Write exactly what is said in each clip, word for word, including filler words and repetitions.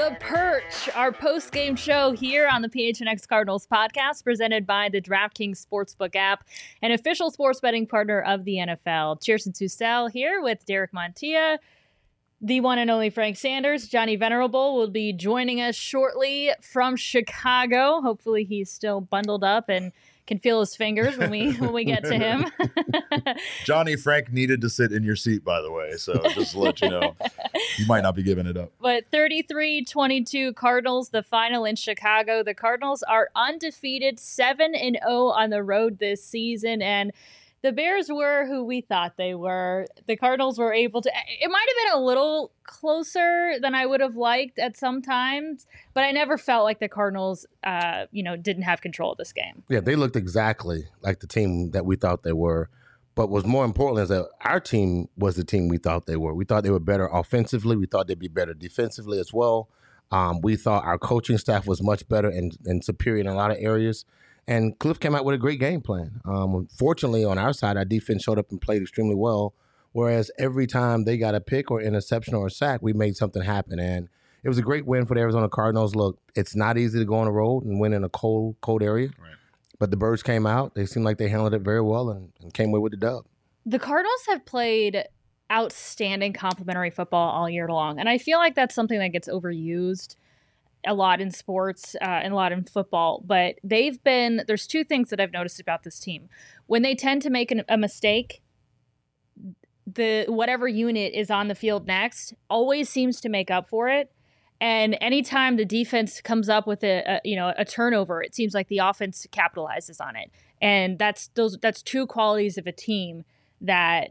The Perch, our post-game show here on the P H N X Cardinals podcast, presented by the DraftKings Sportsbook app, an official sports betting partner of the N F L. Cheerson Tussell here with Derek Montilla, the one and only Frank Sanders. Johnny Venerable will be joining us shortly from Chicago. Hopefully he's still bundled up and can feel his fingers when we when we get to him. Johnny, Frank needed to sit in your seat, by the way, so just to let you know, you might not be giving it up. But thirty-three twenty-two Cardinals, the final in Chicago. The Cardinals are undefeated, seven and oh on the road this season, and the Bears were who we thought they were. The Cardinals were able to, it might have been a little closer than I would have liked at some times, but I never felt like the Cardinals, uh, you know, didn't have control of this game. Yeah, they looked exactly like the team that we thought they were. But what's more important is that our team was the team we thought they were. We thought they were better offensively. We thought they'd be better defensively as well. Um, we thought our coaching staff was much better and, and superior in a lot of areas. And Cliff came out with a great game plan. Um, fortunately, on our side, our defense showed up and played extremely well, whereas every time they got a pick or interception or a sack, we made something happen. And it was a great win for the Arizona Cardinals. Look, it's not easy to go on the road and win in a cold, cold area. Right. But the Birds came out. They seemed like they handled it very well and, and came away with the dub. The Cardinals have played outstanding complementary football all year long, and I feel like that's something that gets overused a lot in sports uh, and a lot in football, but they've been, there's two things that I've noticed about this team. When they tend to make an, a mistake, the whatever unit is on the field next always seems to make up for it. And anytime the defense comes up with a, a you know a turnover, it seems like the offense capitalizes on it. And that's those that's two qualities of a team that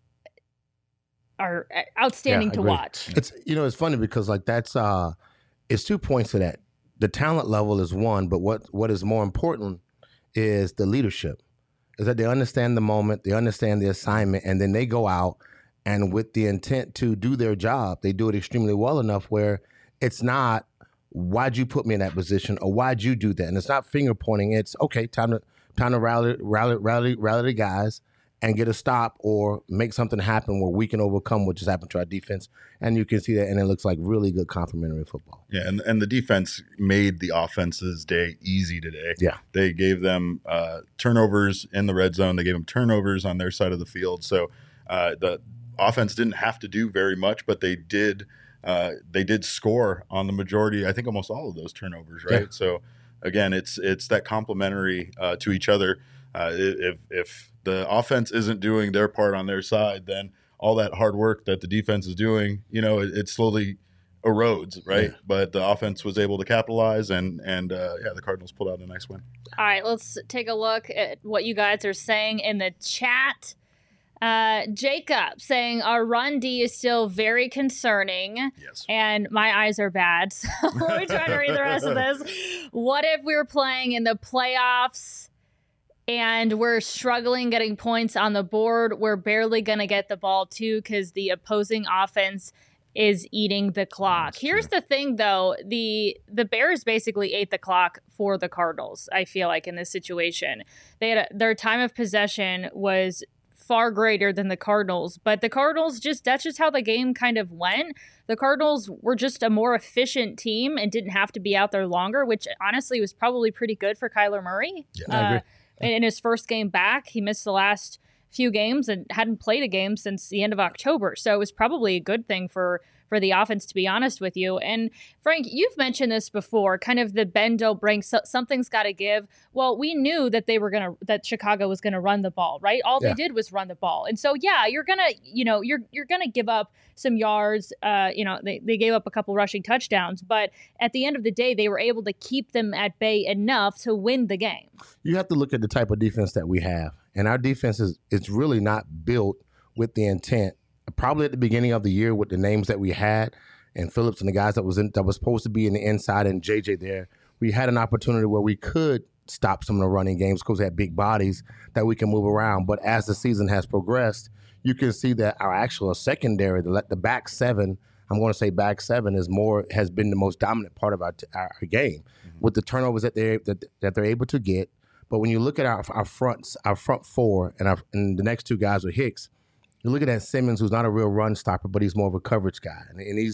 are outstanding yeah, to watch. It's you know it's funny because like that's uh it's two points to that. The talent level is one, but what what is more important is the leadership. Is that they understand the moment, they understand the assignment, and then they go out and with the intent to do their job, they do it extremely well enough where it's not, why'd you put me in that position or why'd you do that? And it's not finger pointing. It's okay, time to time to rally rally rally rally the guys and get a stop or make something happen where we can overcome what just happened to our defense. And you can see that, and it looks like really good complementary football. Yeah, and, and the defense made the offense's day easy today. Yeah. They gave them uh, turnovers in the red zone. They gave them turnovers on their side of the field. So uh, the offense didn't have to do very much, but they did uh, they did score on the majority, I think almost all of those turnovers, right? Yeah. So, again, it's it's that complementary uh, to each other. Uh, if if the offense isn't doing their part on their side, then all that hard work that the defense is doing, you know, it, it slowly erodes, right? Yeah. But the offense was able to capitalize, and and uh, yeah, the Cardinals pulled out a nice win. All right, let's take a look at what you guys are saying in the chat. Uh, Jacob saying our run D is still very concerning. Yes. And my eyes are bad, so we're trying to read the rest of this. What if we were playing in the playoffs and we're struggling getting points on the board? We're barely going to get the ball, too, because the opposing offense is eating the clock. That's Here's true. the thing, though. The the Bears basically ate the clock for the Cardinals, I feel like, in this situation. They had a, their time of possession was far greater than the Cardinals, but the Cardinals just, that's just how the game kind of went. The Cardinals were just a more efficient team and didn't have to be out there longer, which honestly was probably pretty good for Kyler Murray. Yeah, uh, I agree. In his first game back, he missed the last few games and hadn't played a game since the end of October. So it was probably a good thing for, for the offense, to be honest with you. And Frank, you've mentioned this before, kind of the bend don't break, so, something's got to give. Well, we knew that they were going to, that Chicago was going to run the ball, right? All yeah. they did was run the ball. And so, yeah, you're going to, you know, you're, you're going to give up some yards. Uh, you know, they, they gave up a couple rushing touchdowns, but at the end of the day, they were able to keep them at bay enough to win the game. You have to look at the type of defense that we have. And our defense is it's really not built with the intent. Probably at the beginning of the year with the names that we had and Phillips and the guys that was in, that was supposed to be in the inside and J J there, we had an opportunity where we could stop some of the running games because we had big bodies that we can move around. But as the season has progressed, you can see that our actual secondary, the, the back seven, I'm going to say back seven is more has been the most dominant part of our, our, our game mm-hmm. with the turnovers that they that, that they're able to get. But when you look at our our fronts, our front four, and our and the next two guys are Hicks. You look at that Simmons, who's not a real run stopper, but he's more of a coverage guy, and, and he's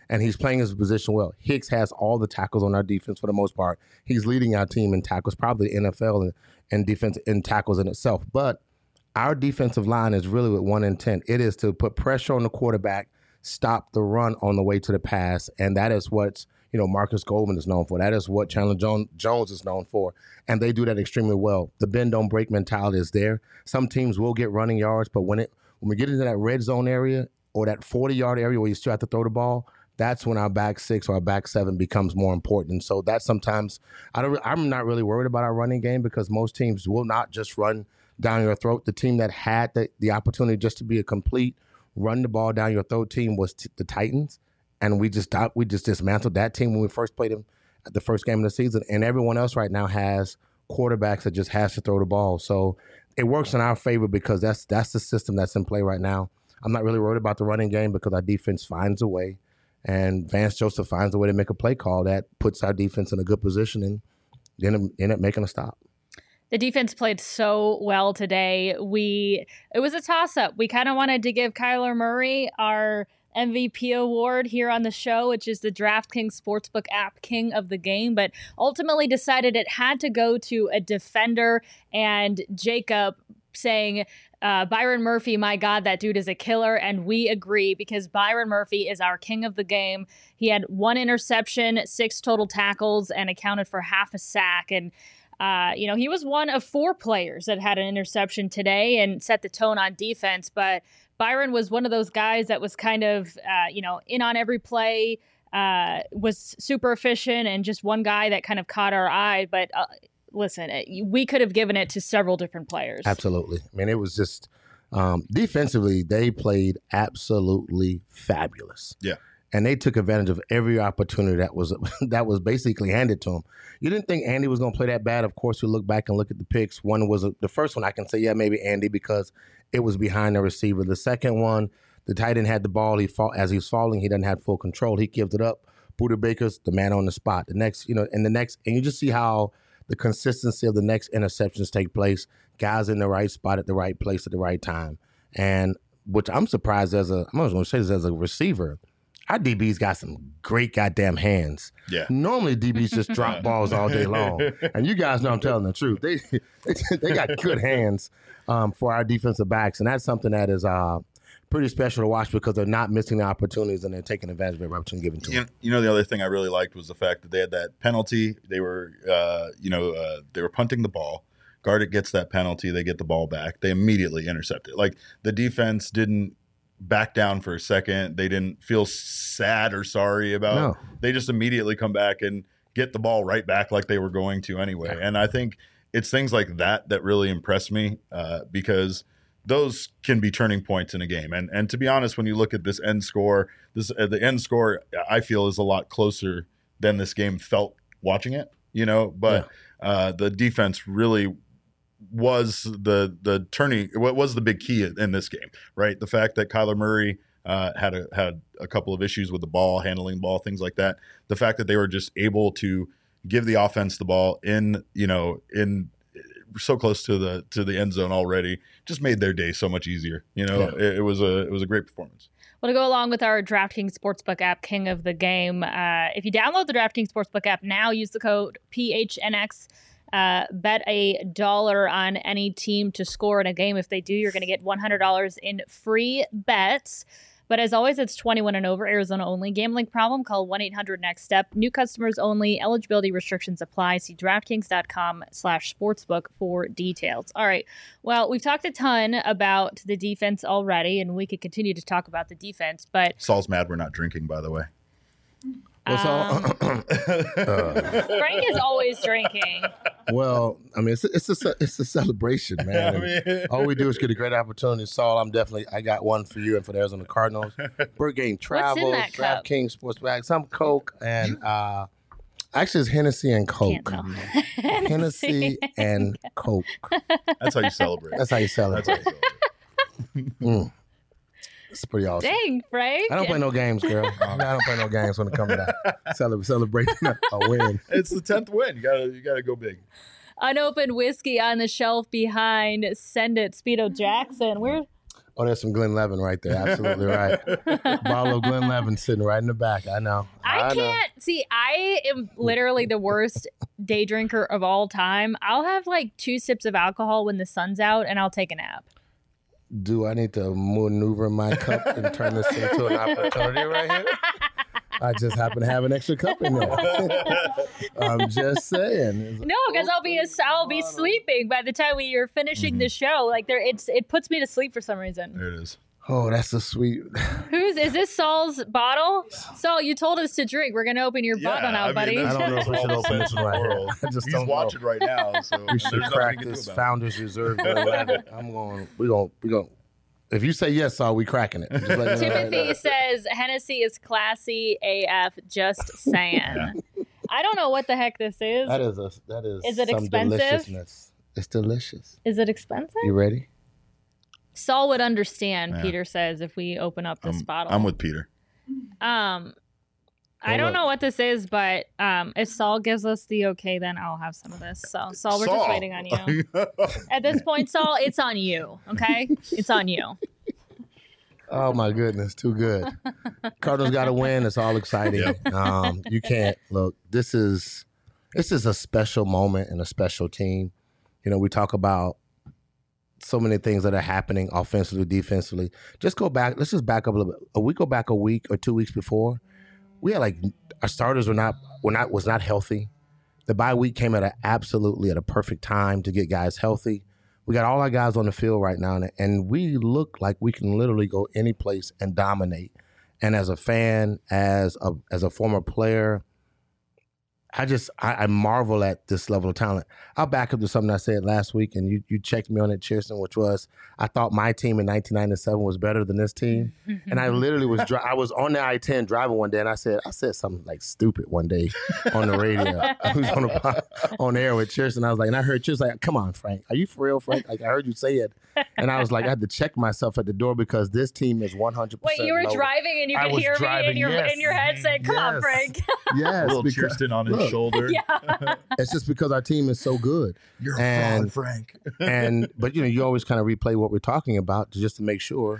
and he's playing his position well. Hicks has all the tackles on our defense for the most part. He's leading our team in tackles, probably the N F L in, in defense in tackles in itself. But our defensive line is really with one intent. It is to put pressure on the quarterback, stop the run on the way to the pass, and that is what you know Marcus Goldman is known for. That is what Chandler Jones, Jones is known for, and they do that extremely well. The bend don't break mentality is there. Some teams will get running yards, but when it when we get into that red zone area or that forty-yard area where you still have to throw the ball, that's when our back six or our back seven becomes more important. So that sometimes I don't. I'm not really worried about our running game because most teams will not just run down your throat. The team that had the, the opportunity just to be a complete run the ball down your throat team was t- the Titans, and we just we just dismantled that team when we first played them at the first game of the season. And everyone else right now has quarterbacks that just has to throw the ball. So it works in our favor because that's that's the system that's in play right now. I'm not really worried about the running game because our defense finds a way, and Vance Joseph finds a way to make a play call that puts our defense in a good position and then end up making a stop. The defense played so well today. We it was a toss-up. We kind of wanted to give Kyler Murray our M V P award here on the show, which is the DraftKings Sportsbook app king of the game, but ultimately decided it had to go to a defender, and Jacob saying, uh, Byron Murphy, my God, that dude is a killer. And we agree because Byron Murphy is our king of the game. He had one interception, six total tackles, and accounted for half a sack. And Uh, you know, he was one of four players that had an interception today and set the tone on defense. But Byron was one of those guys that was kind of, uh, you know, in on every play, uh, was super efficient, and just one guy that kind of caught our eye. But uh, listen, we could have given it to several different players. Absolutely. I mean, it was just um, defensively, they played absolutely fabulous. Yeah. And they took advantage of every opportunity that was that was basically handed to them. You didn't think Andy was going to play that bad. Of course, you look back and look at the picks. One was a, the first one I can say, yeah, maybe Andy, because it was behind the receiver. The second one, the tight end had the ball. He fall, as he was falling, he didn't have full control. He gives it up. Buda Baker's the man on the spot. The next, you know, and the next, and you just see how the consistency of the next interceptions take place. Guys in the right spot at the right place at the right time. And which I'm surprised as a, I'm going to say this as a receiver. Our D Bs got some great goddamn hands. Yeah. Normally D Bs just drop balls all day long, and you guys know I'm telling the truth. They they, they got good hands um, for our defensive backs, and that's something that is uh, pretty special to watch because they're not missing the opportunities and they're taking advantage of every opportunity given to you them. Know, you know, the other thing I really liked was the fact that they had that penalty. They were, uh, you know, uh, they were punting the ball. Gardick gets that penalty. They get the ball back. They immediately intercept it. Like the defense didn't back down for a second. They didn't feel sad or sorry about No. it. They just immediately come back and get the ball right back like they were going to anyway. Yeah. And I think it's things like that that really impress me uh, because those can be turning points in a game. And and to be honest, when you look at this end score, this uh, the end score I feel is a lot closer than this game felt watching it, you know, but yeah. uh, the defense really was the the turning what was the big key in this game, right? The fact that Kyler Murray uh, had a had a couple of issues with the ball, handling the ball, things like that. The fact that they were just able to give the offense the ball in, you know, in so close to the to the end zone already, just made their day so much easier. You know, yeah. it, it was a it was a great performance. Well, to go along with our DraftKings Sportsbook app, king of the game, uh, if you download the DraftKings Sportsbook app now, use the code P H N X. Uh, bet a dollar on any team to score in a game. If they do, you're going to get one hundred dollars in free bets. But as always, it's twenty-one and over, Arizona only. Gambling problem? Call one eight hundred next step. New customers only. Eligibility restrictions apply. See DraftKings.com slash sportsbook for details. All right. Well, we've talked a ton about the defense already, and we could continue to talk about the defense. But Saul's mad we're not drinking, by the way. What's um, all? uh, Frank is always drinking. Well, I mean, it's a, it's a it's a celebration, man. I mean, all we do is get a great opportunity. Saul, I'm definitely I got one for you and for the Arizona Cardinals. We're getting travels, DraftKings Sportsbook, some Coke, and uh, actually it's Hennessy and Coke. Hennessy and Coke. That's how you celebrate. That's how you celebrate. That's how you celebrate. mm. It's pretty awesome. Dang, Frank. I don't play no games, girl. I don't play no games when it comes to that. Cele- celebrating a win. It's the tenth win. You gotta you gotta go big. Unopened whiskey on the shelf behind Send It, Speedo Jackson. Where Oh, there's some Glenn Levin right there. Absolutely right. Bottle of Glenn Levin sitting right in the back. I know. I, I can't know. see. I am literally the worst day drinker of all time. I'll have like two sips of alcohol when the sun's out, and I'll take a nap. Do I need to maneuver my cup and turn this into an opportunity right here? I just happen to have an extra cup in there. I'm just saying. No, because I'll be I'll be sleeping by the time we are finishing mm-hmm. the show. Like there, it's it puts me to sleep for some reason. There it is. Oh, that's a sweet. Who's is this? Saul's bottle? Saul, you told us to drink. We're gonna open your yeah, bottle now, I mean, buddy. I don't know if we should open this one right here. I just He's don't watching know. right now, so we should crack this Founders Reserve. I'm going. We going. We going. If you say yes, Saul, we cracking it. Timothy right says Hennessy is classy A F. Just saying. Yeah. I don't know what the heck this is. That is a. That is. Is it some expensive? Deliciousness. It's delicious. Is it expensive? You ready? Saul would understand. Yeah. Peter says if we open up this I'm, bottle. I'm with Peter. Um. I Hold don't up. know what this is, but um, if Saul gives us the okay, then I'll have some of this. So, Saul, we're Saul. just waiting on you. At this point, Saul, it's on you, okay? It's on you. Oh, my goodness. Too good. Cardinals got to win. It's all exciting. Yep. Um, you can't. Look, this is this is a special moment and a special team. You know, we talk about so many things that are happening offensively, defensively. Just go back. Let's just back up a little bit. A week go back a week or two weeks before. We had like our starters were not were not was not healthy. The bye week came at a absolutely at a perfect time to get guys healthy. We got all our guys on the field right now, and we look like we can literally go any place and dominate. And as a fan, as a as a former player, I just I, I marvel at this level of talent. I'll back up to something I said last week, and you you checked me on it, Chierstin, which was I thought my team in nineteen ninety-seven was better than this team, and I literally was dri- I was on the I ten driving one day, and I said I said something like stupid one day on the radio. I was on the, on the air with Chierstin. I was like, and I heard Chierstin like, "Come on, Frank, are you for real, Frank?" Like I heard you say it, and I was like, I had to check myself at the door because this team is one hundred percent. Wait, you were lower. driving and you I could hear driving, me in your yes. in your head saying, "Come yes. on, Frank." Yes, a little because, Chierstin on his look, shoulder. Yeah. It's just because our team is so good. You're a and, fraud, Frank. and but you know, you always kind of replay what we're talking about just to make sure.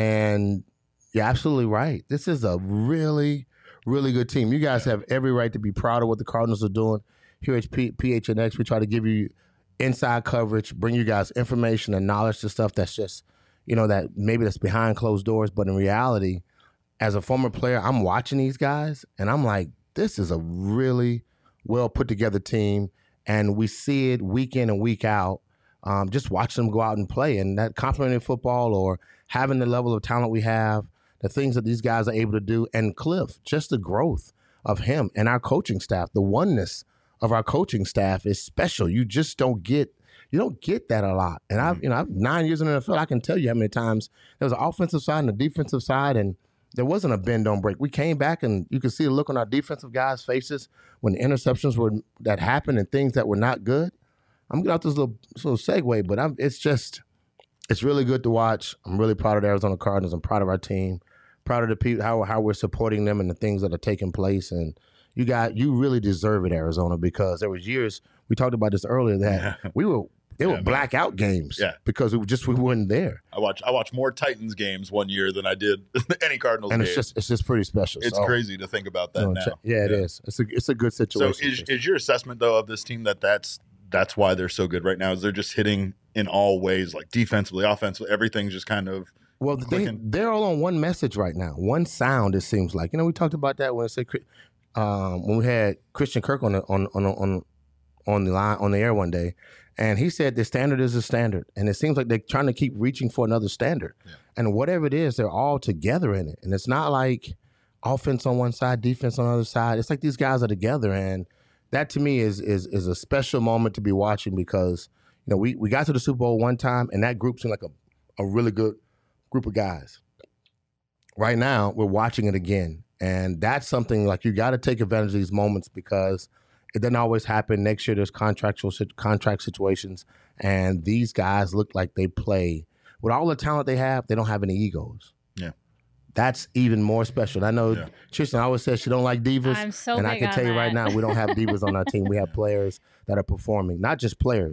And you're absolutely right. This is a really, really good team. You guys have every right to be proud of what the Cardinals are doing. Here at P- PHNX, we try to give you inside coverage, bring you guys information and knowledge to stuff that's just, you know, that maybe that's behind closed doors. But in reality, as a former player, I'm watching these guys and I'm like, this is a really well put together team. And we see it week in and week out. Um, just watching them go out and play, and that complimentary football or having the level of talent we have, the things that these guys are able to do, and Cliff, just the growth of him and our coaching staff, the oneness of our coaching staff is special. You just don't get you don't get that a lot. And I've you know I've nine years in the N F L. I can tell you how many times there was an offensive side and a defensive side, and there wasn't a bend don't break. We came back, and you could see the look on our defensive guys' faces when the interceptions were that happened and things that were not good. I'm getting out this little, this little segue, but I'm, it's just, it's really good to watch. I'm really proud of the Arizona Cardinals. I'm proud of our team, proud of the people, how how we're supporting them and the things that are taking place. And you got, you really deserve it, Arizona, because there was years, we talked about this earlier, that Yeah. we were, they Yeah, were man. blackout games Yeah. because we just, we weren't there. I watch I watch more Titans games one year than I did any Cardinals And game. it's just, it's just pretty special. It's So, crazy to think about that you know, now. check- yeah, it is. It's a, it's a good So situation. is, is your assessment though of this team that that's that's why they're so good right now? Is they're just hitting in all ways, like defensively, offensively, everything's just kind of Well, they, clicking. they're all on one message right now, one sound. It seems like you know we talked about that when I said um, when we had Christian Kirk on the on on on on the line on the air one day, and he said the standard is a standard, and it seems like they're trying to keep reaching for another standard, Yeah. and whatever it is, they're all together in it, and it's not like offense on one side, defense on the other side. It's like these guys are together, and that to me is is is a special moment to be watching because you know we we got to the Super Bowl one time, and that group seemed like a a really good group of guys. Right now, we're watching it again. And that's something like you got to take advantage of these moments because it doesn't always happen. Next year, there's contractual contract situations. And these guys look like they play. With all the talent they have, they don't have any egos. Yeah. That's even more special. I know Yeah. Tristan always says she don't like divas. I'm so and I big can on tell you right that. now, we don't have divas on our team. We have players that are performing. Not just players,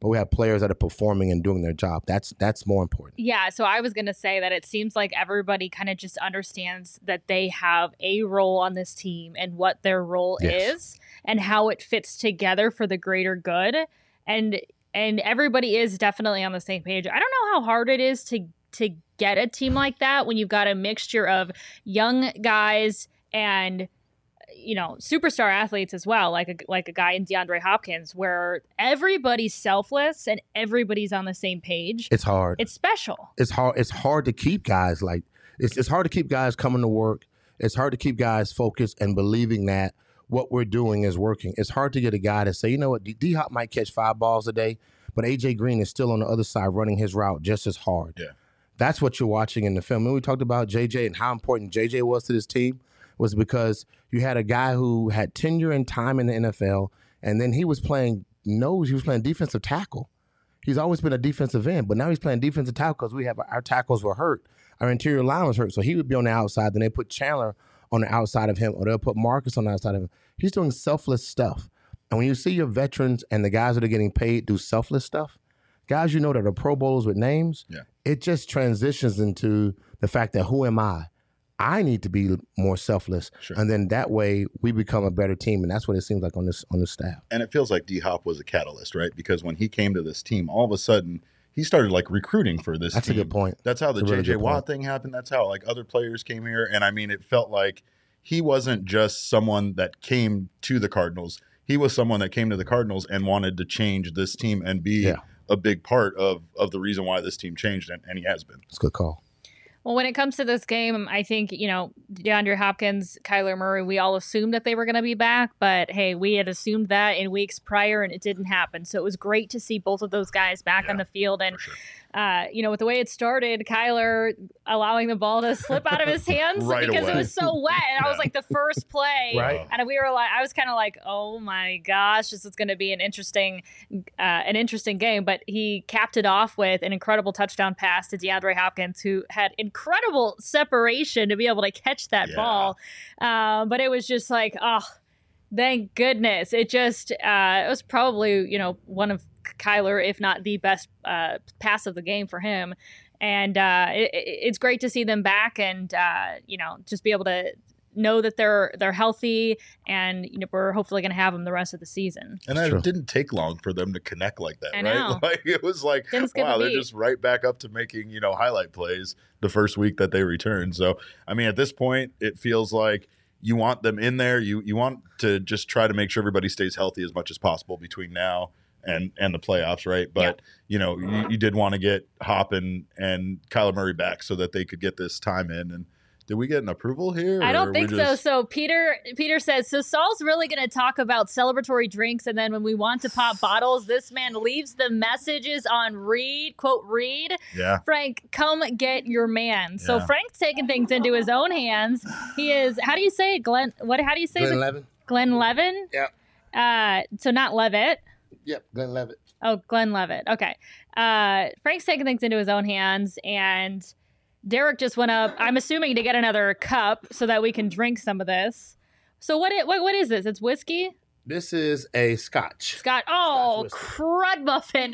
but we have players that are performing and doing their job. That's that's more important. Yeah, so I was going to say that it seems like everybody kind of just understands that they have a role on this team and what their role Yes. is and how it fits together for the greater good. And and everybody is definitely on the same page. I don't know how hard it is to to get a team like that when you've got a mixture of young guys and, you know, superstar athletes as well, like a, like a guy in DeAndre Hopkins, where everybody's selfless and everybody's on the same page. It's hard. It's special. It's hard. It's hard to keep guys like it's. It's hard to keep guys coming to work. It's hard to keep guys focused and believing that what we're doing is working. It's hard to get a guy to say, you know what, D Hop might catch five balls a day, but A J Green is still on the other side running his route just as hard. Yeah. That's what you're watching in the film. And we talked about J J and how important J J was to this team was because you had a guy who had tenure and time in the N F L, and then he was playing nose. He was playing defensive tackle. He's always been a defensive end, but now he's playing defensive tackle because we have our tackles were hurt. Our interior line was hurt, so he would be on the outside. Then they put Chandler on the outside of him, or they'll put Marcus on the outside of him. He's doing selfless stuff. And when you see your veterans and the guys that are getting paid do selfless stuff, guys you know that are Pro Bowlers with names, Yeah. it just transitions into the fact that who am I? I need to be more selfless, Sure. and then that way we become a better team, and that's what it seems like on this on this staff. And it feels like D Hop was a catalyst, right? Because when he came to this team, all of a sudden he started like recruiting for this That's team. a good point. That's how the That's a really J J good Watt point. thing happened. That's how like other players came here. And I mean, it felt like he wasn't just someone that came to the Cardinals. He was someone that came to the Cardinals and wanted to change this team and be Yeah. a big part of of the reason why this team changed, and, and he has been. It's a good call. Well, when it comes to this game, I think, you know, DeAndre Hopkins, Kyler Murray, we all assumed that they were going to be back. But, hey, we had assumed that in weeks prior, and it didn't happen. So it was great to see both of those guys back Yeah, on the field. And, For sure. uh, you know, with the way it started, Kyler allowing the ball to slip out of his hands Right because away. it was so wet. And I was Yeah. like the first play. Right. And we were like, I was kind of like, oh, my gosh, this is going to be an interesting uh, an interesting game. But he capped it off with an incredible touchdown pass to DeAndre Hopkins, who had incredible separation to be able to catch that Yeah. ball. Um, but it was just like, oh, thank goodness. It just, uh, it was probably, you know, one of Kyler, if not the best uh, pass of the game for him. And uh, it, it's great to see them back and, uh, you know, just be able to know that they're they're healthy, and you know we're hopefully going to have them the rest of the season. And It's it true. didn't take long for them to connect like that, I right? know. Like it was like, Didn't skip a wow, they're beat. just right back up to making, you know, highlight plays the first week that they returned. So, I mean, at this point, it feels like you want them in there. You you want to just try to make sure everybody stays healthy as much as possible between now and and the playoffs, right? But you know, you, you did want to get Hop and and Kyler Murray back so that they could get this time in. And did we get an approval here? I or don't we think so. just- So Peter Peter says, so Saul's really going to talk about celebratory drinks, and then when we want to pop bottles, this man leaves the messages on read, quote, read. Yeah. Frank, come get your man. So Yeah. Frank's taking things into his own hands. He is, how do you say it, Glenn? What? How do you say Glenn it? Levin? Glenn Levin? Yep. Uh, so not Levitt. Yep, Glenn Levitt. Oh, Glenn Levitt. Okay. Uh, Frank's taking things into his own hands, and Derek just went up, I'm assuming, to get another cup so that we can drink some of this. So what? It, what? What is this? It's whiskey? This is a scotch. Scott. Oh, Scotch crud muffin.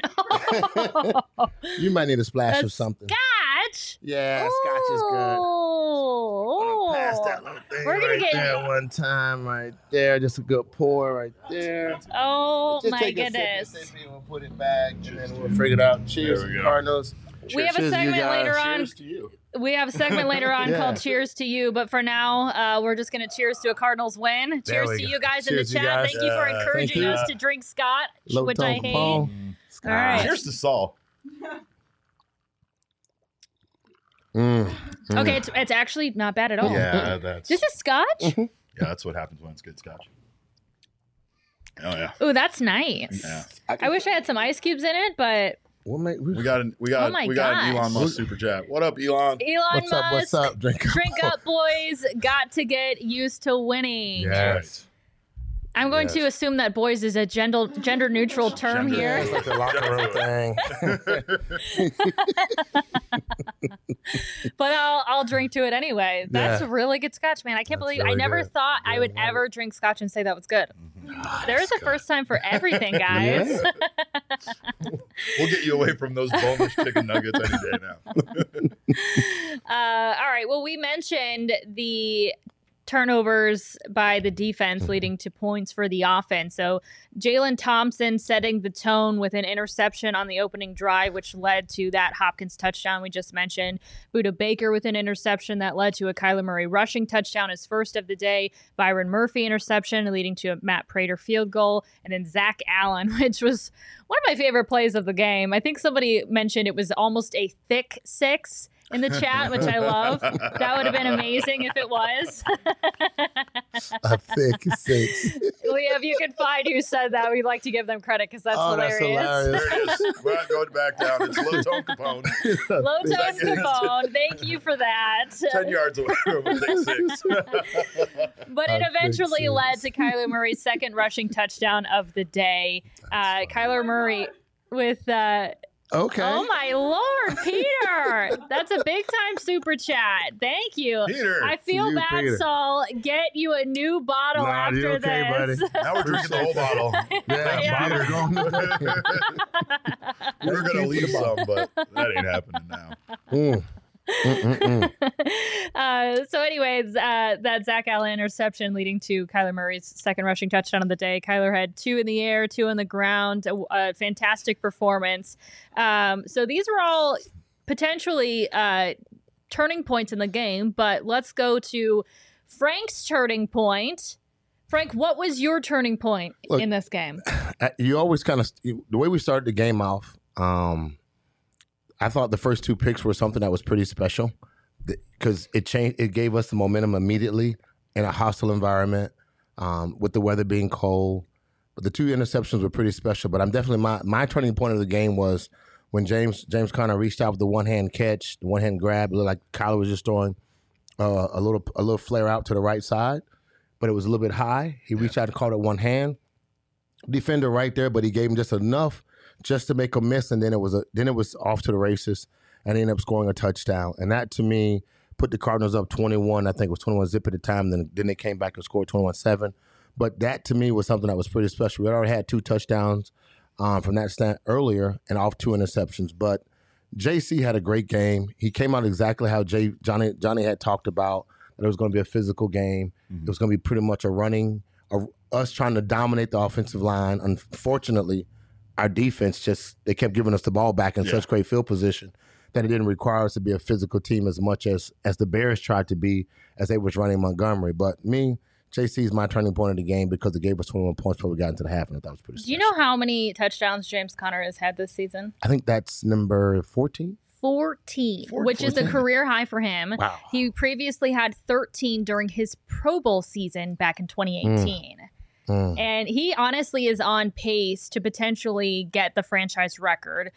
You might need a splash A of something. Scotch. Yeah, scotch is good. Oh. Pass that little thing We're gonna right get- there one time, right there. Just a good pour right there. Oh Just my take a sip, goodness. sip, and we'll put it back, and then we'll figure it out. Cheers, There we go. Cardinals. We have a Cheers to you segment guys. later on. Cheers to you. We have a segment later on Yeah. called Cheers to You, but for now, uh, we're just going to cheers to a Cardinals win. There Cheers we to go. you guys Cheers, in you the chat. guys. Thank you for Yeah, encouraging thank you. us to drink Scotch, Low which tone I hate. Capone. All right. Cheers to Saul. Mm, mm. Okay, it's, it's actually not bad at all. Yeah, that's This is Scotch? yeah, that's what happens when it's good scotch. Oh yeah, Ooh, that's nice. yeah. I wish I had some ice cubes in it, but We'll make, we, We got an, we got Oh my we got an gosh. Elon Musk super chat. What up, Elon? Elon what's Musk, up? What's up? Drink up. drink up, boys. Got to get used to winning. Yes. I'm going Yes. to assume that boys is a gender gender neutral term Gender- here. It's like the locker room thing. But I'll I'll drink to it anyway. That's Yeah. really good scotch, man. I can't That's believe I really never good. thought I Yeah, would right. ever drink scotch and say that was good. Ah, There is that's a first time for everything, guys. Yeah. We'll get you away from those boneless chicken nuggets any day now. Uh, all right. Well, we mentioned the turnovers by the defense leading to points for the offense. So Jalen Thompson setting the tone with an interception on the opening drive, which led to that Hopkins touchdown we just mentioned. Buda Baker with an interception that led to a Kyler Murray rushing touchdown, his first of the day. Byron Murphy interception leading to a Matt Prater field goal. And then Zach Allen, which was one of my favorite plays of the game. I think somebody mentioned it was almost a thick six in the chat, which I love. That would have been amazing if it was. A thick six. Leah, if you can find who said that, we'd like to give them credit because that's Oh, that's hilarious. hilarious. There it is. We're not going back down. It's low tone Capone. Low tone Second. Capone, thank you for that. Ten yards away from a big six. But it A eventually big led six. to Kyler Murray's second rushing touchdown of the day. Uh, Kyler Murray with, uh, Okay. oh my Lord, Peter. That's a big time super chat. Thank you. Peter. I feel You, bad, Peter. Saul. Get you a new bottle Nah, after you're okay, this. buddy. Now we're drinking the whole bottle. Yeah, Yeah. Peter, go on. We were Thank gonna you for leave the some, bottle. but that ain't happening now. Mm. Mm-mm-mm. uh, so, anyways, uh, that Zach Allen interception leading to Kyler Murray's second rushing touchdown of the day. Kyler had two in the air, two on the ground. A, a fantastic performance. Um, so these were all potentially uh, turning points in the game. But let's go to Frank's turning point. Frank, what was your turning point Look, in this game? Uh, You always kind of the way we started the game off. Um, I thought the first two picks were something that was pretty special because it changed. It gave us the momentum immediately in a hostile environment um, with the weather being cold. But the two interceptions were pretty special. But I'm definitely my my turning point of the game was when James James Conner reached out with the one hand catch, the one hand grab. It looked like Kyler was just throwing uh, a little a little flare out to the right side, but it was a little bit high. He reached out and caught it one hand. Defender right there, but he gave him just enough just to make a miss, and then it was a then it was off to the races, and he ended up scoring a touchdown. And that to me put the Cardinals up twenty-one. I think it was twenty-one zip at the time. Then then they came back and scored twenty-one seven. But that to me was something that was pretty special. We already had two touchdowns um, from that stand earlier and off two interceptions. But J C had a great game. He came out exactly how Jay, Johnny Johnny had talked about, that it was going to be a physical game. Mm-hmm. It was going to be pretty much a running, a, us trying to dominate the offensive line. Unfortunately, our defense just, they kept giving us the ball back in Yeah. such great field position that it didn't require us to be a physical team as much as as the Bears tried to be as they was running Montgomery. But me, J C is my turning point of the game because it gave us twenty-one points before we got into the half, and I thought it was pretty Do you special. know how many touchdowns James Conner has had this season? I think that's number fourteen. fourteen, which is a fourteen. career high for him. Wow. He previously had thirteen during his Pro Bowl season back in twenty eighteen. Mm. And he honestly is on pace to potentially get the franchise record.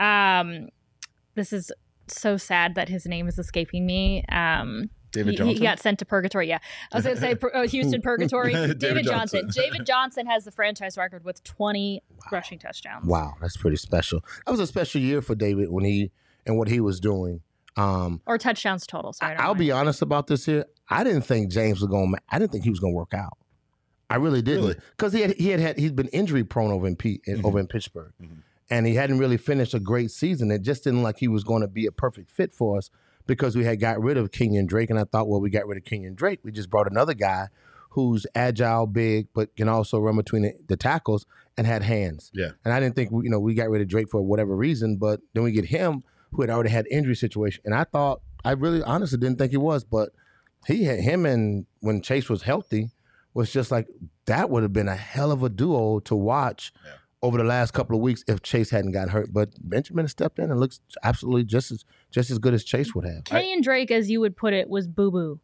Um, this is so sad that his name is escaping me. Um, David he, Johnson. he got sent to purgatory. Yeah, I was going to say uh, Houston purgatory. David, David Johnson. Johnson. David Johnson has the franchise record with twenty rushing touchdowns. Wow, that's pretty special. That was a special year for David when he and what he was doing. Um, Or touchdowns total. Sorry, I, I'll be honest about this here. I didn't think James was going. I didn't think he was going to work out. I really Really? didn't, because he had he had had he's been injury prone over in P, Mhm. over in Pittsburgh, Mhm. and he hadn't really finished a great season. It just didn't like he was going to be a perfect fit for us because we had got rid of Kenyon Drake, and I thought, well, we got rid of Kenyon Drake. We just brought another guy who's agile, big, but can also run between the, the tackles and had hands. Yeah. And I didn't think we, you know we got rid of Drake for whatever reason, but then we get him who had already had injury situation, and I thought I really honestly didn't think he was, but he had him, and when Chase was healthy, was just like that would have been a hell of a duo to watch Yeah. over the last couple of weeks if Chase hadn't gotten hurt. But Benjamin stepped in and looks absolutely just as just as good as Chase would have. Kenyon Drake, as you would put it, was boo boo.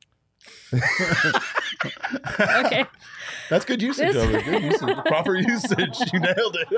Okay. That's good usage This- of it. Good usage. Proper usage. You nailed it.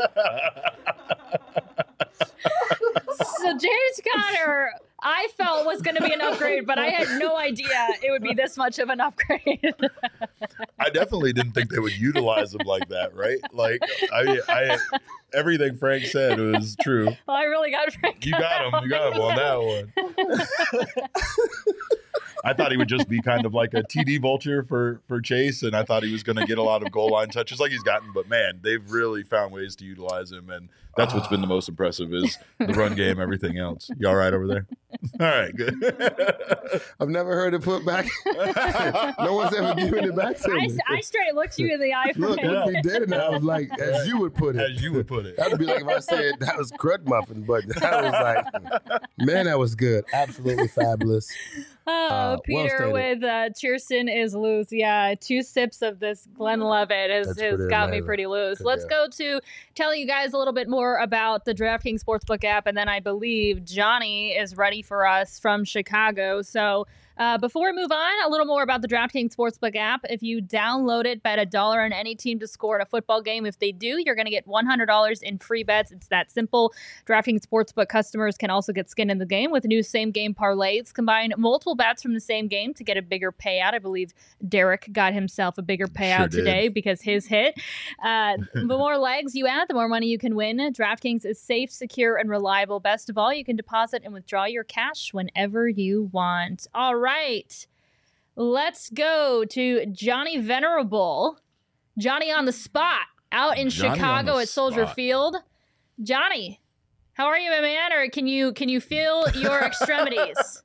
So James Conner, I felt was going to be an upgrade, but I had no idea it would be this much of an upgrade. I definitely didn't think they would utilize him like that, right? Like, I, I, everything Frank said was true. Well, I really got Frank. You got him. You got him on that one. I thought he would just be kind of like a T D vulture for, for Chase, and I thought he was going to get a lot of goal line touches like he's gotten. But, man, they've really found ways to utilize him, and that's what's been the most impressive is the run game, everything else. You all right over there? All right, good. I've never heard it put back. No one's ever given it back to I, me. I straight looked you in the eye for Look, it. look, we did it, and I was like, as you would put it. As you would put it. That would be like if I said that was crud muffin, but that was like, man, that was good. Absolutely fabulous. Oh, Uh, well Peter stated. with uh, Cheerson is loose. Yeah, two sips of this Glenlivet has, That's has pretty got me amazing. pretty loose. Good Let's deal. go to telling you guys a little bit more about the DraftKings Sportsbook app, and then I believe Johnny is ready for us from Chicago. So uh, before we move on, a little more about the DraftKings Sportsbook app. If you download it, bet a dollar on any team to score in a football game. If they do, you're going to get one hundred dollars in free bets. It's that simple. DraftKings Sportsbook customers can also get skin in the game with new same-game parlays. Combine multiple bets from the same game to get a bigger payout. I believe Derek got himself a bigger payout Sure did. today because his hit. Uh, the more legs you add, the more money you can win. DraftKings is safe, secure, and reliable. Best of all, you can deposit and withdraw your cash whenever you want. All right. Let's go to Johnny Venerable. Johnny on the spot out in Johnny on Chicago the at Soldier spot. Field. Johnny, how are you, my man? Or can you can you feel your extremities?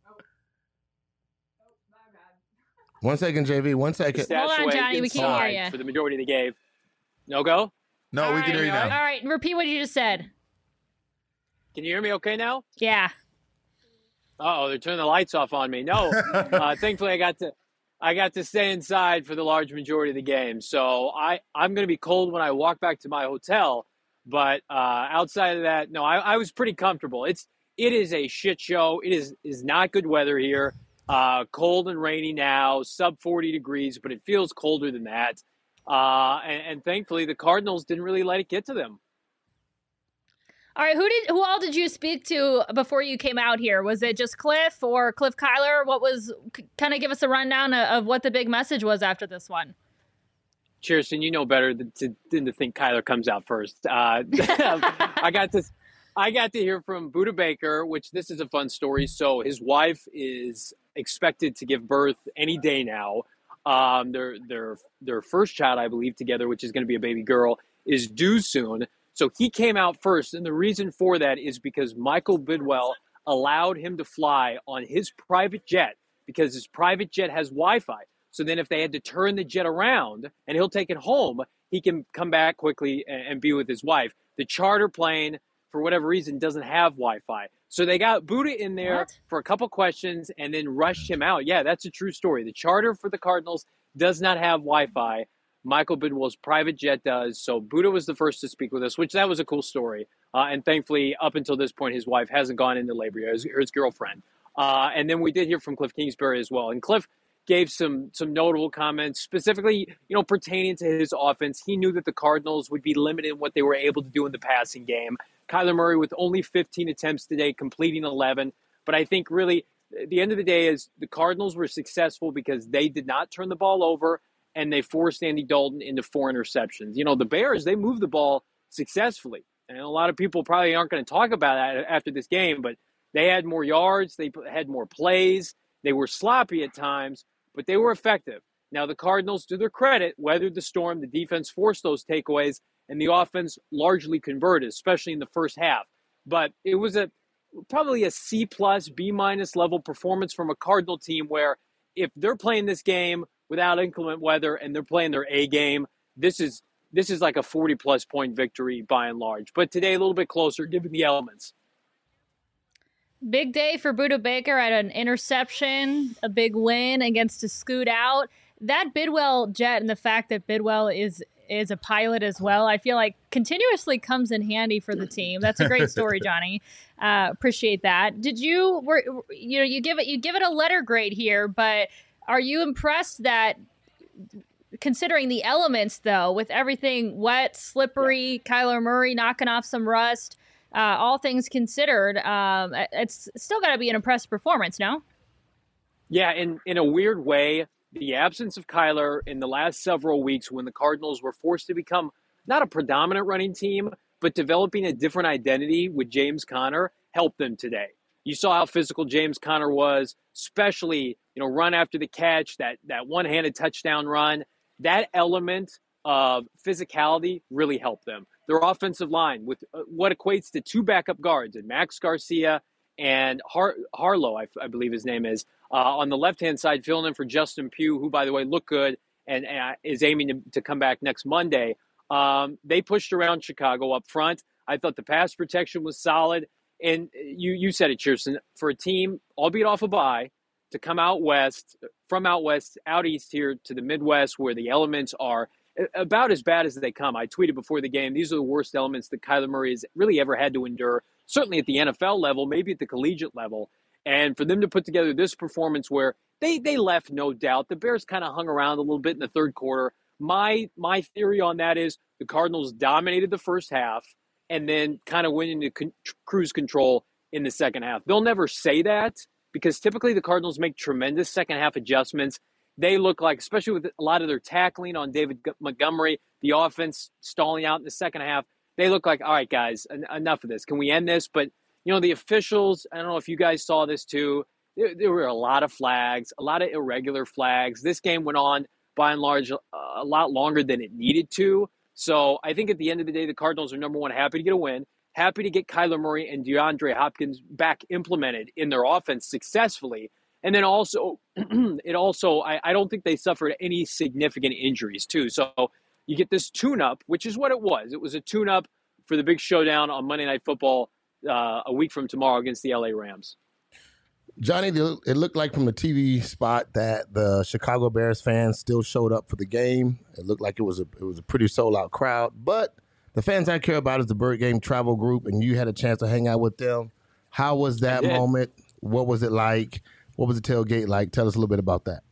One second, J V. One second. Hold on, Stashaway Johnny, we can't hear inside ya. For the majority of the game. No go? No, All we right, can hear you All now. right, repeat what you just said. Can you hear me okay now? Yeah. Uh-oh, they're turning the lights off on me. No. uh, thankfully, I got to I got to stay inside for the large majority of the game. So I, I'm going to be cold when I walk back to my hotel. But uh, outside of that, no, I, I was pretty comfortable. It's It is a shit show. It is, is not good weather here. Uh, cold and rainy now, sub forty degrees, but it feels colder than that. Uh, and, and thankfully, the Cardinals didn't really let it get to them. All right, who did who all did you speak to before you came out here? Was it just Cliff or Cliff Kyler? What was kind of give us a rundown of, of what the big message was after this one? Cheerson, you know better than to, than to think Kyler comes out first. Uh, I got this. I got to hear from Buda Baker, which this is a fun story. So his wife is expected to give birth any day now. Um, their their their first child, I believe, together, which is going to be a baby girl, is due soon. So he came out first, and the reason for that is because Michael Bidwell allowed him to fly on his private jet because his private jet has Wi-Fi. So then if they had to turn the jet around and he'll take it home, he can come back quickly and, and be with his wife. The charter plane, for whatever reason, doesn't have Wi-Fi. So they got Buda in there What? for a couple questions and then rushed him out. Yeah, that's a true story. The charter for the Cardinals does not have Wi-Fi. Michael Bidwell's private jet does. So Buda was the first to speak with us, which that was a cool story. Uh, and thankfully, up until this point, his wife hasn't gone into labor yet, his, his girlfriend. Uh, and then we did hear from Cliff Kingsbury as well. And Cliff gave some some notable comments, specifically, you know, pertaining to his offense. He knew that the Cardinals would be limited in what they were able to do in the passing game. Kyler Murray with only fifteen attempts today, completing eleven. But I think really, at the end of the day, is the Cardinals were successful because they did not turn the ball over and they forced Andy Dalton into four interceptions. You know, the Bears, they moved the ball successfully. And a lot of people probably aren't going to talk about that after this game, but they had more yards, they had more plays, they were sloppy at times, but they were effective. Now, the Cardinals, to their credit, weathered the storm. The defense forced those takeaways, and the offense largely converted, especially in the first half. But it was a probably a C plus, B minus level performance from a Cardinal team where if they're playing this game without inclement weather and they're playing their A game, this is this is like a forty plus point victory by and large. But today a little bit closer given the elements. Big day for Buda Baker at an interception, a big win against a scoot out. That Bidwell jet and the fact that Bidwell is is a pilot as well, I feel like continuously comes in handy for the team. That's a great story, Johnny. Uh, appreciate that. Did you were you know you give it you give it a letter grade here, but are you impressed that considering the elements though, with everything wet, slippery, Kyler Murray knocking off some rust, uh, all things considered, um, it's still got to be an impressive performance, no? Yeah, in, in a weird way, the absence of Kyler in the last several weeks when the Cardinals were forced to become not a predominant running team, but developing a different identity with James Conner helped them today. You saw how physical James Conner was, especially, you know, run after the catch, that, that one-handed touchdown run. That element of physicality really helped them. Their offensive line with what equates to two backup guards, and Max Garcia and Har- Harlow, I, I believe his name is, uh, on the left-hand side, filling in for Justin Pugh, who, by the way, looked good and, and is aiming to, to come back next Monday. Um, they pushed around Chicago up front. I thought the pass protection was solid. And you you said it, Chierstin, for a team, albeit off a bye, to come out west, from out west, out east here to the Midwest, where the elements are about as bad as they come. I tweeted before the game, these are the worst elements that Kyler Murray has really ever had to endure, certainly at the N F L level, maybe at the collegiate level. And for them to put together this performance where they, they left, no doubt. The Bears kind of hung around a little bit in the third quarter. My, my theory on that is the Cardinals dominated the first half and then kind of went into con- cruise control in the second half. They'll never say that because typically the Cardinals make tremendous second half adjustments. They look like, especially with a lot of their tackling on David Montgomery, the offense stalling out in the second half, they look like, all right, guys, en- enough of this. Can we end this? But, you know, the officials, I don't know if you guys saw this too, there, there were a lot of flags, a lot of irregular flags. This game went on, by and large, a lot longer than it needed to. So I think at the end of the day, the Cardinals are, number one, happy to get a win, happy to get Kyler Murray and DeAndre Hopkins back implemented in their offense successfully. And then also, it also, I, I don't think they suffered any significant injuries, too. So you get this tune-up, which is what it was. It was a tune-up for the big showdown on Monday Night Football uh, a week from tomorrow against the L A Rams. Johnny, it looked like from the T V spot that the Chicago Bears fans still showed up for the game. It looked like it was a it was a pretty sold-out crowd. But the fans I care about is the Bird Game Travel Group, and you had a chance to hang out with them. How was that moment? What was it like? What was the tailgate like? Tell us a little bit about that.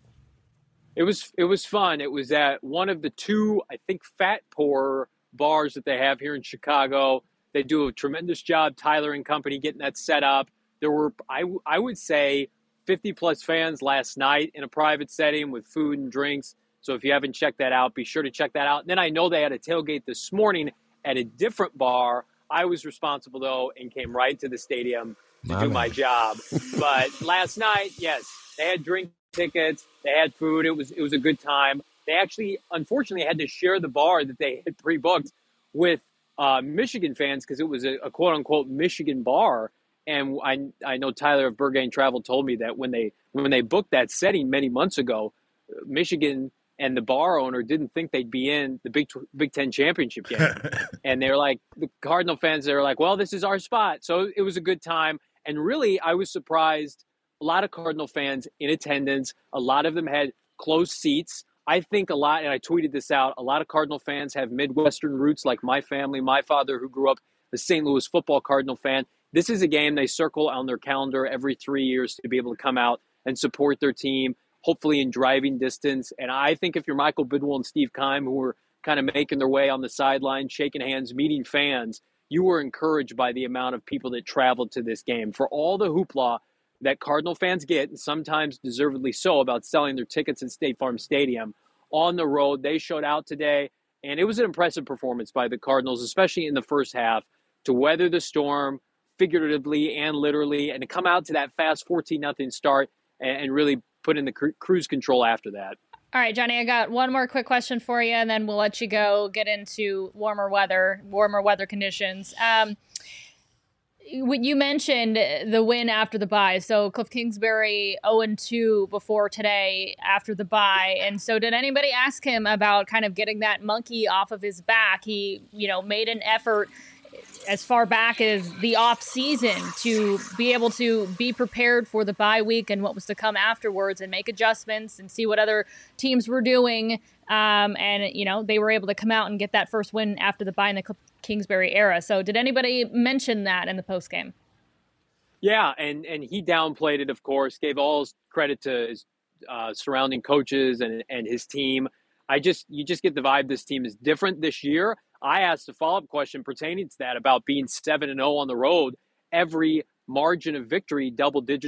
It was it was fun. It was at one of the two, I think, Fat Pour bars that they have here in Chicago. They do a tremendous job, Tyler and company, getting that set up. There were, I, I would say, fifty-plus fans last night in a private setting with food and drinks. So if you haven't checked that out, be sure to check that out. And then I know they had a tailgate this morning at a different bar. I was responsible, though, and came right to the stadium to my do man. my job. But last night, yes, they had drink tickets. They had food. It was it was a good time. They actually, unfortunately, had to share the bar that they had pre-booked with uh, Michigan fans because it was a, a quote-unquote Michigan bar. And I I know Tyler of Bird Game Travel told me that when they when they booked that setting many months ago, Michigan and the bar owner didn't think they'd be in the Big Big Ten championship game, and they're like the Cardinal fans. They're like, well, this is our spot. So it was a good time, and really, I was surprised. A lot of Cardinal fans in attendance. A lot of them had close seats. I think a lot, and I tweeted this out. A lot of Cardinal fans have Midwestern roots, like my family. My father, who grew up a Saint Louis football Cardinal fan. This is a game they circle on their calendar every three years to be able to come out and support their team, hopefully in driving distance. And I think if you're Michael Bidwell and Steve Keim, who were kind of making their way on the sideline, shaking hands, meeting fans, you were encouraged by the amount of people that traveled to this game. For all the hoopla that Cardinal fans get, and sometimes deservedly so, about selling their tickets at State Farm Stadium, on the road, they showed out today. And it was an impressive performance by the Cardinals, especially in the first half, to weather the storm, figuratively and literally, and to come out to that fast fourteen nothing start and really put in the cru- cruise control after that. All right, Johnny, I got one more quick question for you, and then we'll let you go get into warmer weather, warmer weather conditions. Um, you mentioned the win after the bye. So Cliff Kingsbury oh and two before today after the bye. And so did anybody ask him about kind of getting that monkey off of his back? He, you know, made an effort as far back as the off season to be able to be prepared for the bye week and what was to come afterwards and make adjustments and see what other teams were doing. Um, and, you know, they were able to come out and get that first win after the bye in the Kingsbury era. So did anybody mention that in the post game? Yeah. And, and he downplayed it, of course, gave all his credit to his uh, surrounding coaches and, and his team. I just, you just get the vibe this team is different this year. I asked a follow-up question pertaining to that about being seven and oh on the road. Every margin of victory, double digits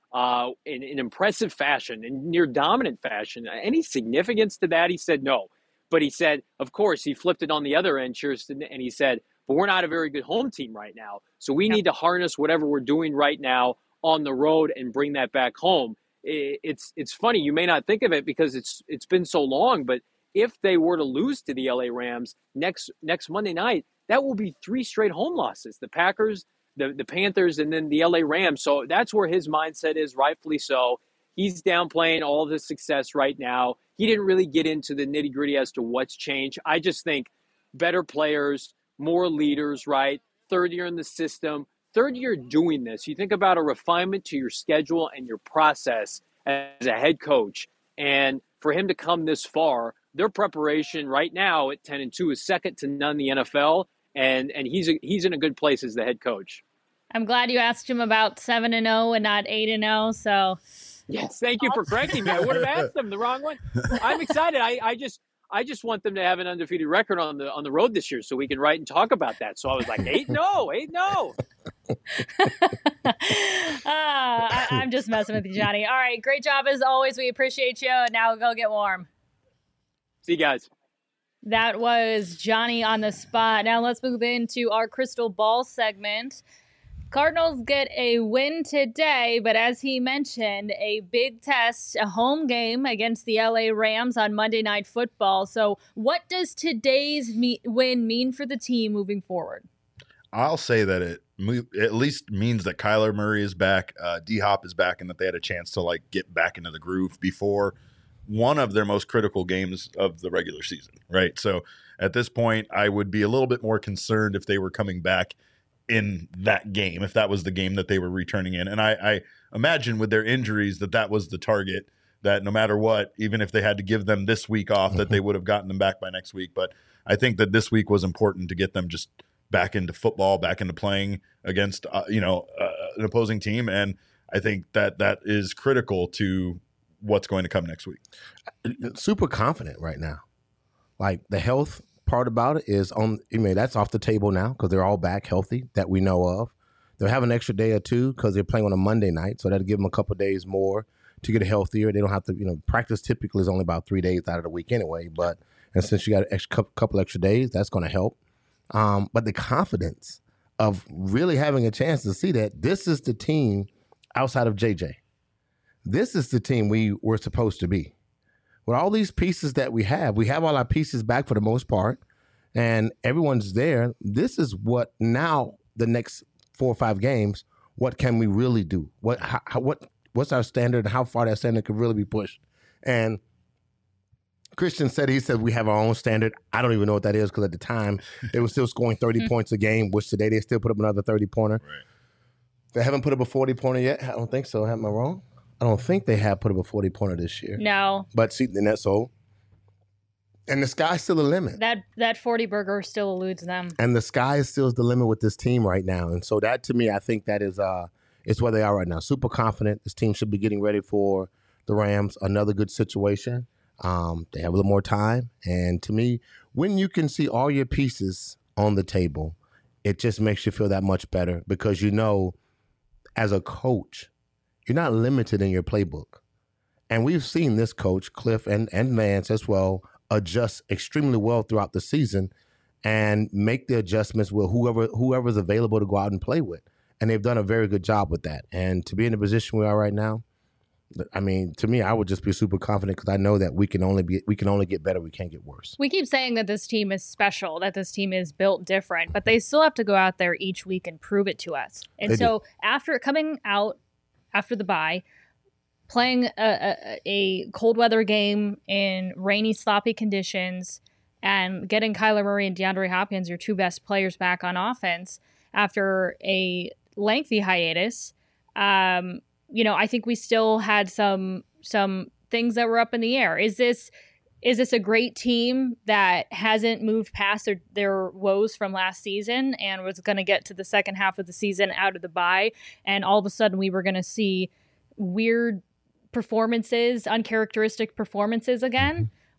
uh, in, in impressive fashion, in near dominant fashion. Any significance to that? He said no. But he said, of course, he flipped it on the other end, Kirsten, and he said, but we're not a very good home team right now. So we yep. need to harness whatever we're doing right now on the road and bring that back home. It's it's funny. You may not think of it because it's it's been so long, but if they were to lose to the L A Rams next next Monday night, that will be three straight home losses. The Packers, the, the Panthers, and then the L A Rams. So that's where his mindset is, rightfully so. He's downplaying all of his success right now. He didn't really get into the nitty-gritty as to what's changed. I just think better players, more leaders, right? Third year in the system, third year doing this. You think about a refinement to your schedule and your process as a head coach. And for him to come this far, their preparation right now at ten and two is second to none in the N F L. And and he's a, he's in a good place as the head coach. I'm glad you asked him about seven and oh and not eight and oh. So yes, thank you for correcting me. I would have asked them the wrong one. I'm excited. I, I just I just want them to have an undefeated record on the on the road this year so we can write and talk about that. So I was like, eight and oh, eight and oh. uh, I, I'm just messing with you, Johnny. All right, great job as always. We appreciate you. Now go get warm. See you guys. That was Johnny on the spot. Now let's move into our crystal ball segment. Cardinals get a win today, but as he mentioned, a big test, a home game against the L A Rams on Monday Night Football. So what does today's me- win mean for the team moving forward? I'll say that it mo- at least means that Kyler Murray is back, uh, D-Hop is back, and that they had a chance to like get back into the groove before one of their most critical games of the regular season, right? So at this point, I would be a little bit more concerned if they were coming back in that game, if that was the game that they were returning in. And I, I imagine with their injuries that that was the target, that no matter what, even if they had to give them this week off, that they would have gotten them back by next week. But I think that this week was important to get them just back into football, back into playing against, uh, you know, uh, an opposing team. And I think that that is critical to what's going to come next week. Super confident right now. Like the health part about it is on, I mean, that's off the table now because they're all back healthy that we know of. They'll have an extra day or two because they're playing on a Monday night. So that'll give them a couple of days more to get healthier. They don't have to, you know, practice typically is only about three days out of the week anyway. But, and since you got an extra couple extra days, that's going to help. Um, but the confidence of really having a chance to see that this is the team outside of J J. This is the team we were supposed to be. With all these pieces that we have, we have all our pieces back for the most part, and everyone's there. This is what now the next four or five games, what can we really do? What how, what what's our standard and how far that standard could really be pushed? And Christian said, he said, we have our own standard. I don't even know what that is because at the time they were still scoring thirty points a game, which today they still put up another thirty-pointer. Right. They haven't put up a forty-pointer yet. I don't think so. Am I wrong? I don't think they have put up a forty-pointer this year. No. But see, then that's so. And the sky's still the limit. That that forty burger still eludes them. And the sky is still the limit with this team right now. And so that, to me, I think that is uh, it's where they are right now. Super confident. This team should be getting ready for the Rams. Another good situation. Um, they have a little more time. And to me, when you can see all your pieces on the table, it just makes you feel that much better because you know, as a coach, you're not limited in your playbook. And we've seen this coach, Cliff and, and Vance as well, adjust extremely well throughout the season and make the adjustments with whoever whoever's available to go out and play with. And they've done a very good job with that. And to be in the position we are right now, I mean, to me, I would just be super confident because I know that we can only be we can only get better. We can't get worse. We keep saying that this team is special, that this team is built different, but they still have to go out there each week and prove it to us. And They so do. after coming out after the bye, playing a, a, a cold weather game in rainy, sloppy conditions, and getting Kyler Murray and DeAndre Hopkins, your two best players, back on offense after a lengthy hiatus, um, you know, I think we still had some some things that were up in the air. Is this is this a great team that hasn't moved past their, their woes from last season and was going to get to the second half of the season out of the bye, and all of a sudden we were going to see weird performances, uncharacteristic performances again?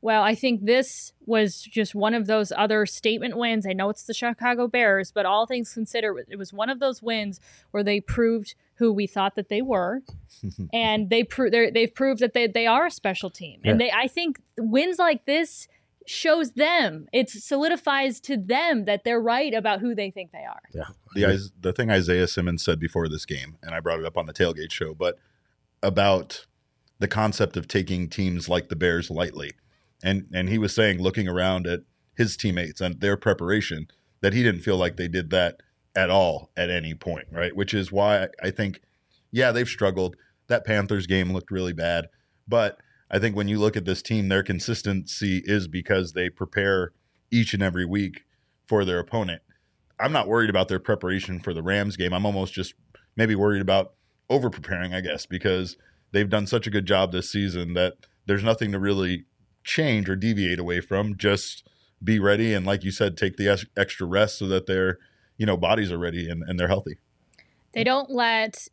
Well, I think this was just one of those other statement wins. I know it's the Chicago Bears, but all things considered, it was one of those wins where they proved who we thought that they were, and they pro- they've proved that they they are a special team. Yeah. And they, I think, wins like this shows them, it solidifies to them that they're right about who they think they are. Yeah, the the thing Isaiah Simmons said before this game, and I brought it up on the tailgate show, but about the concept of taking teams like the Bears lightly. And and he was saying, looking around at his teammates and their preparation, that he didn't feel like they did that at all at any point, right? Which is why I think, yeah, they've struggled. That Panthers game looked really bad. But I think when you look at this team, their consistency is because they prepare each and every week for their opponent. I'm not worried about their preparation for the Rams game. I'm almost just maybe worried about over-preparing, I guess, because they've done such a good job this season that there's nothing to really change or deviate away from. Just be ready and, like you said, take the ex- extra rest so that their, you know, bodies are ready and, and they're healthy. They don't let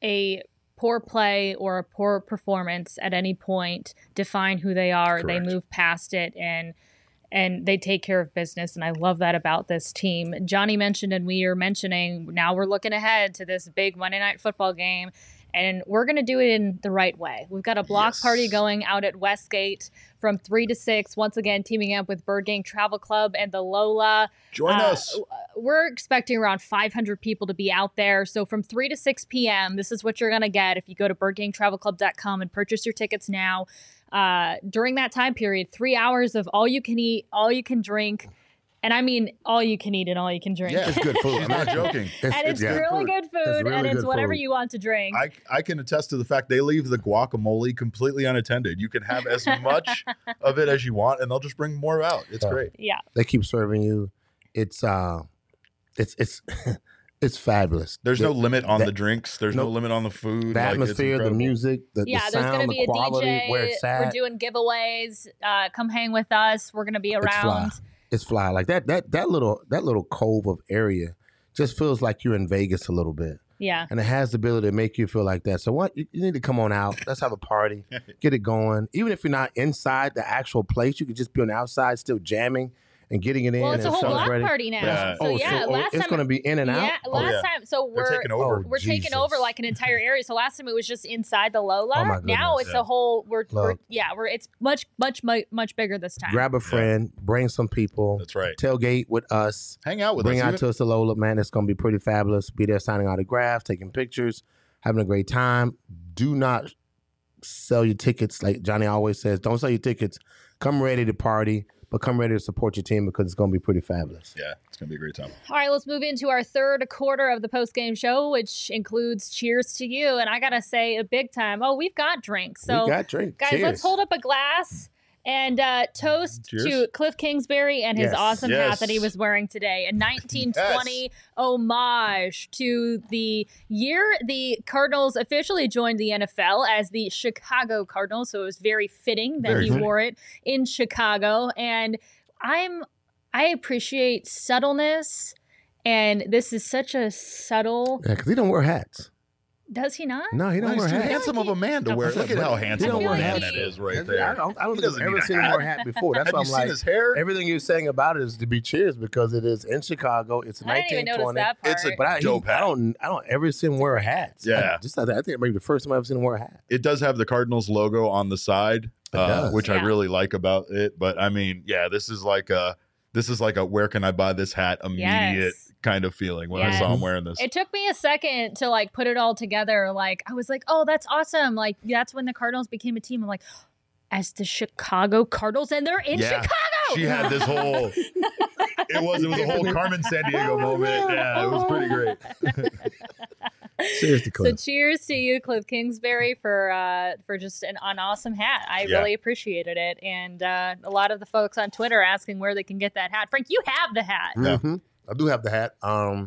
a poor play or a poor performance at any point define who they are. Correct. They move past it and and they take care of business, and I love that about this team. Johnny mentioned, and we are mentioning, now we're looking ahead to this big Monday Night Football game, and we're going to do it in the right way. We've got a block yes. party going out at Westgate from three to six. Once again, teaming up with Bird Gang Travel Club and the Lola. Join uh, us. We're expecting around five hundred people to be out there. So from three to six p.m., this is what you're going to get if you go to bird gang travel club dot com and purchase your tickets now. Uh, during that time period, three hours of all you can eat, all you can drink. And I mean, all you can eat and all you can drink. Yeah, it's good food. I'm not joking. It's, and it's, it's yeah. really good food, it's really and it's whatever food. you want to drink. I, I can attest to the fact they leave the guacamole completely unattended. You can have as much of it as you want, and they'll just bring more out. It's yeah. great. Yeah, they keep serving you. It's uh, it's it's it's fabulous. There's the, no limit on that, the drinks. There's no, no limit on the food. The like, atmosphere, the music, the, yeah, the sound, there's gonna be the quality, a D J. Where it's at. We're doing giveaways. Uh, come hang with us. We're gonna be around. It's fly. Like that that that little that little cove of area just feels like you're in Vegas a little bit. Yeah. And it has the ability to make you feel like that. So what you, you need to come on out. Let's have a party. Get it going. Even if you're not inside the actual place, you could just be on the outside still jamming and getting it in. Well, it's and a whole block party now. Yeah. So oh, yeah, so, last oh, it's time going to be in and out. Yeah, last oh, yeah. time. So we're They're taking over. Oh, we're Jesus. taking over like an entire area. So last time it was just inside the Lola. Oh, my now goodness. it's Yeah. a whole. We're, Look. we're yeah. We're it's much much much much bigger this time. Grab a friend, bring some people. That's right. Tailgate with us. Hang out with bring us. out Even- to us the Lola, man. It's going to be pretty fabulous. Be there signing autographs, taking pictures, having a great time. Do not sell your tickets. Like Johnny always says, don't sell your tickets. Come ready to party, but come ready to support your team because it's going to be pretty fabulous. Yeah, it's going to be a great time. All right, let's move into our third quarter of the post-game show, which includes Cheers to You. And I got to say, a big time. Oh, we've got drinks. So, we got drinks. guys, Cheers. let's hold up a glass and uh, toast Cheers. to Cliff Kingsbury and his Yes. awesome Yes. hat that he was wearing today. A nineteen twenty Yes. homage to the year the Cardinals officially joined the N F L as the Chicago Cardinals. So it was very fitting that Very he fitting. wore it in Chicago. And I'm I appreciate subtleness. And this is such a subtle. Yeah, because he don't wear hats. Does he not? No, he don't Nice, wear too hats. handsome of a man to I wear. feel Look at like- how he handsome don't of a wear man hats. that is right I there. don't, I don't He think I've doesn't ever need a seen him hat. wear a hat before. That's Have why you I'm seen like, his hair? everything you're saying about it is to be cheers because it is in Chicago. It's I didn't even nineteen notice twenty. that part. It's a- But I, he, Dope hat. I don't, I don't ever see him wear a hat. Yeah. I, just I think maybe the first time I've seen him wear a hat. It does have the Cardinals logo on the side, It uh, does. which I Yeah. really like about it. But I mean, yeah, this is like a this is like a where can I buy this hat immediate Yes. kind of feeling when I Yes. saw him wearing this. It took me a second to like put it all together. Like I was like, oh, that's awesome. Like that's when the Cardinals became a team. I'm like, as the Chicago Cardinals, and they're in Yeah. Chicago. She had this whole. It was it was a whole Carmen San Diego moment. Yeah, it was pretty great. Cheers to So Cliff. cheers to you, Cliff Kingsbury, for uh, for just an, an awesome hat. I Yeah. really appreciated it, and uh, a lot of the folks on Twitter asking where they can get that hat. Frank, you have the hat. Yeah. hmm I do have the hat. Um,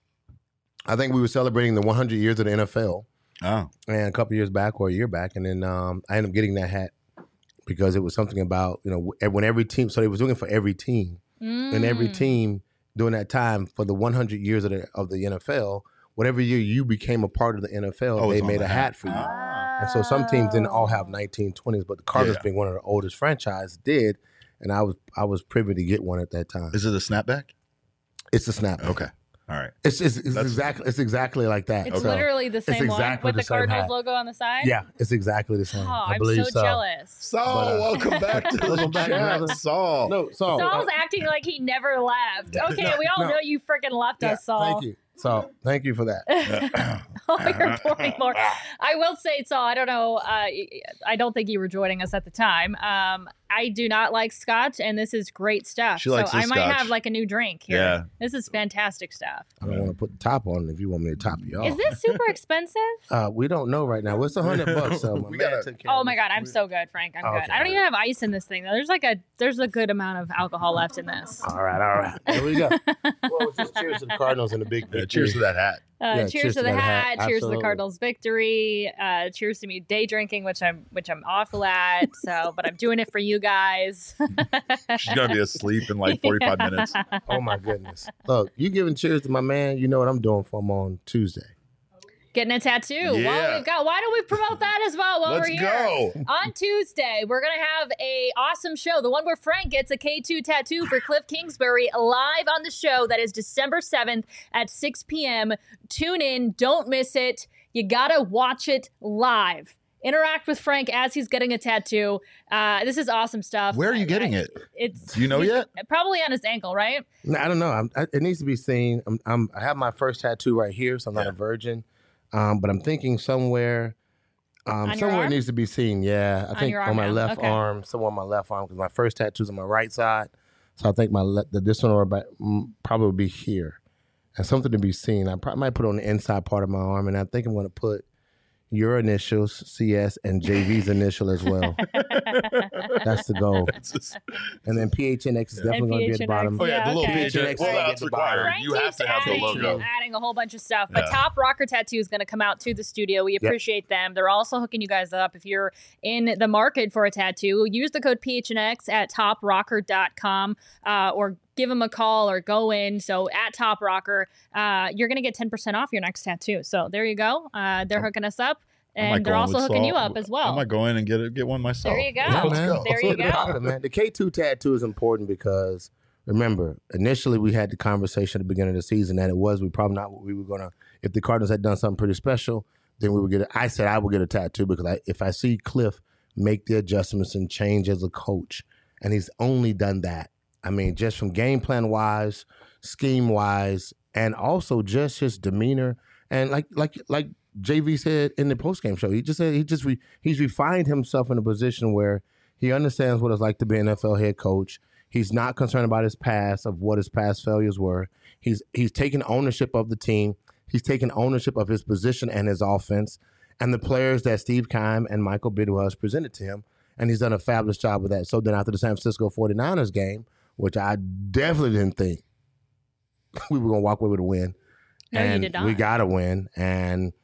I think we were celebrating the one hundred years of the N F L, Oh, and a couple years back or a year back, and then um, I ended up getting that hat because it was something about, you know, when every team. So they was looking for every team, and every Mm. team during that time for the one hundred years of the of the N F L. Whatever year you became a part of the N F L, Oh, they it's on made the a hat. hat for you. Ah. And so some teams didn't all have nineteen twenties, but the Cardinals, Yeah. being one of the oldest franchise, did. And I was I was privy to get one at that time. Is it a snapback? It's a snap. Okay. All right. It's it's, it's That's- exactly it's exactly like that. It's So, literally the same exactly one with the the same Cardinals hat. logo on the side. yeah, it's exactly the same. Oh, I I'm believe so, jealous. Saul, But, uh, welcome back to the welcome back, chat. brother. Saul. No, Saul. Saul's uh, acting like he never left. Okay, No, we all no. know you freaking left yeah, us, Saul. Thank you, Saul. Thank you for that. Oh, you're pouring more. I will say, Saul, I don't know. Uh, I don't think you were joining us at the time. Um, I do not like scotch, and this is great stuff. She likes so the I might scotch. have like a new drink here. Yeah. This is fantastic stuff. I don't want to put the top on if you want me to top you off. Is this super expensive? Uh, we don't know right now. What's a hundred bucks? So my We man gotta- took care Oh of my it. god, I'm so good, Frank. I'm Oh, good. okay. I don't even have ice in this thing though. There's like a there's a good amount of alcohol left in this. All right, all right. Here we go. Well, just cheers to the Cardinals and the big Yeah, victory. cheers to that hat. Uh, Yeah, cheers, to the that hat. hat. Cheers to Absolutely. the Cardinals' victory. Uh, cheers to me day drinking, which I'm which I'm awful at. So, but I'm doing it for you guys. She's gonna be asleep in like forty-five minutes. Oh my goodness. Look, you giving cheers to my man. You know what I'm doing for him on Tuesday. Getting a tattoo. Well, Yeah. we've got. Why don't we promote that as well while Let's we're here? go. On Tuesday, we're gonna have a awesome show. The one where Frank gets a K two tattoo for Cliff Kingsbury live on the show. That is December seventh at six p.m. Tune in. Don't miss it. You gotta watch it live. Interact with Frank as he's getting a tattoo. Uh, this is awesome stuff. Where are you I- getting I- it? It's Do you know he's- yet? Probably on his ankle, right? No, I don't know. I'm, I, it needs to be seen. I'm, I'm, I have my first tattoo right here, so I'm not Yeah. a virgin. Um, but I'm thinking somewhere, um, On your somewhere it arm? needs to be seen. Yeah, I On think your on arm my now. left Okay. arm, somewhere on my left arm, because my first tattoo's on my right side. So I think my le- the this one or about, mm, probably will be here, and something to be seen. I probably might put it on the inside part of my arm, and I think I'm going to put your initials, C S, and J V's initial as well. That's the goal. It's just- And then P H N X is definitely going to be at the P H N X. bottom. oh yeah, Yeah, the little okay. P H N X. Well, Frank that's keeps required. Frank You have keeps to have the adding, logo. adding a whole bunch of stuff. But Yeah. Top Rocker Tattoo is going to come out to the studio. We appreciate them. They're also hooking you guys up. If you're in the market for a tattoo, use the code P H N X at top rocker dot com uh, or give them a call or go in. So at Top Rocker, uh, you're going to get ten percent off your next tattoo. So there you go. Uh, they're hooking us up. I might And go they're in also with hooking Saul. you up as I well. might go in and get it, get one myself. There you go. Yeah, Let's man. go. There you Let's get go. it, man. The K two tattoo is important because remember, initially we had the conversation at the beginning of the season that it was we probably not what we were gonna. If the Cardinals had done something pretty special, then we would get. A, I said I would get a tattoo because I, if I see Cliff make the adjustments and change as a coach, and he's only done that. I mean, just from game plan wise, scheme wise, and also just his demeanor and like like like J V said in the postgame show, he just said he just re, he's refined himself in a position where he understands what it's like to be an N F L head coach. He's not concerned about his past, of what his past failures were. He's he's taken ownership of the team. He's taken ownership of his position and his offense and the players that Steve Keim and Michael Bidwell has presented to him. And he's done a fabulous job with that. So then after the San Francisco forty-niners game, which I definitely didn't think we were going to walk away with a win. No, you and did not. we got a win. And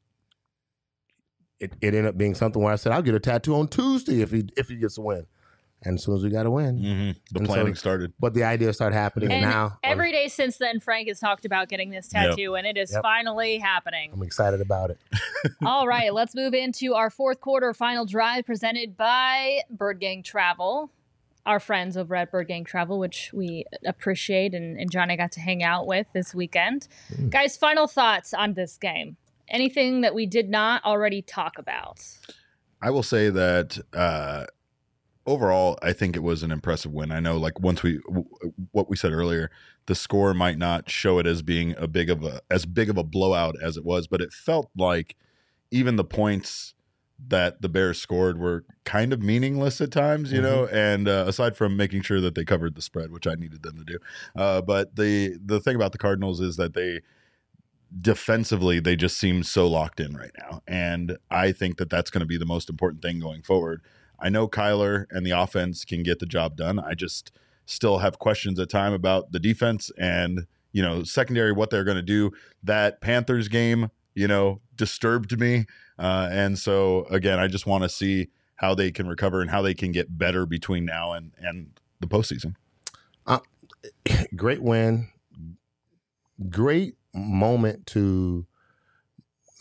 it, it ended up being something where I said, I'll get a tattoo on Tuesday if he if he gets a win. And as soon as we got a win. Mm-hmm. The And so- planning started. But the idea started happening. And, And now every day since then, Frank has talked about getting this tattoo, and it is Yep. finally happening. I'm excited about it. All right, let's move into our fourth quarter final drive presented by Bird Gang Travel, our friends over at Bird Gang Travel, which we appreciate and, and Johnny got to hang out with this weekend. Mm. Guys, final thoughts on this game. Anything that we did not already talk about? I will say that uh, overall, I think it was an impressive win. I know, like once we, w- what we said earlier, the score might not show it as being a big of a as big of a blowout as it was, but it felt like even the points that the Bears scored were kind of meaningless at times, you know. And uh, aside from making sure that they covered the spread, which I needed them to do, uh, but the the thing about the Cardinals is that they. Defensively, they just seem so locked in right now. And I think that that's going to be the most important thing going forward. I know Kyler and the offense can get the job done. I just still have questions at time about the defense and, you know, secondary, what they're going to do. That Panthers game, you know, disturbed me. Uh, and so, again, I just want to see how they can recover and how they can get better between now and, and the postseason. Uh, great win. Great moment to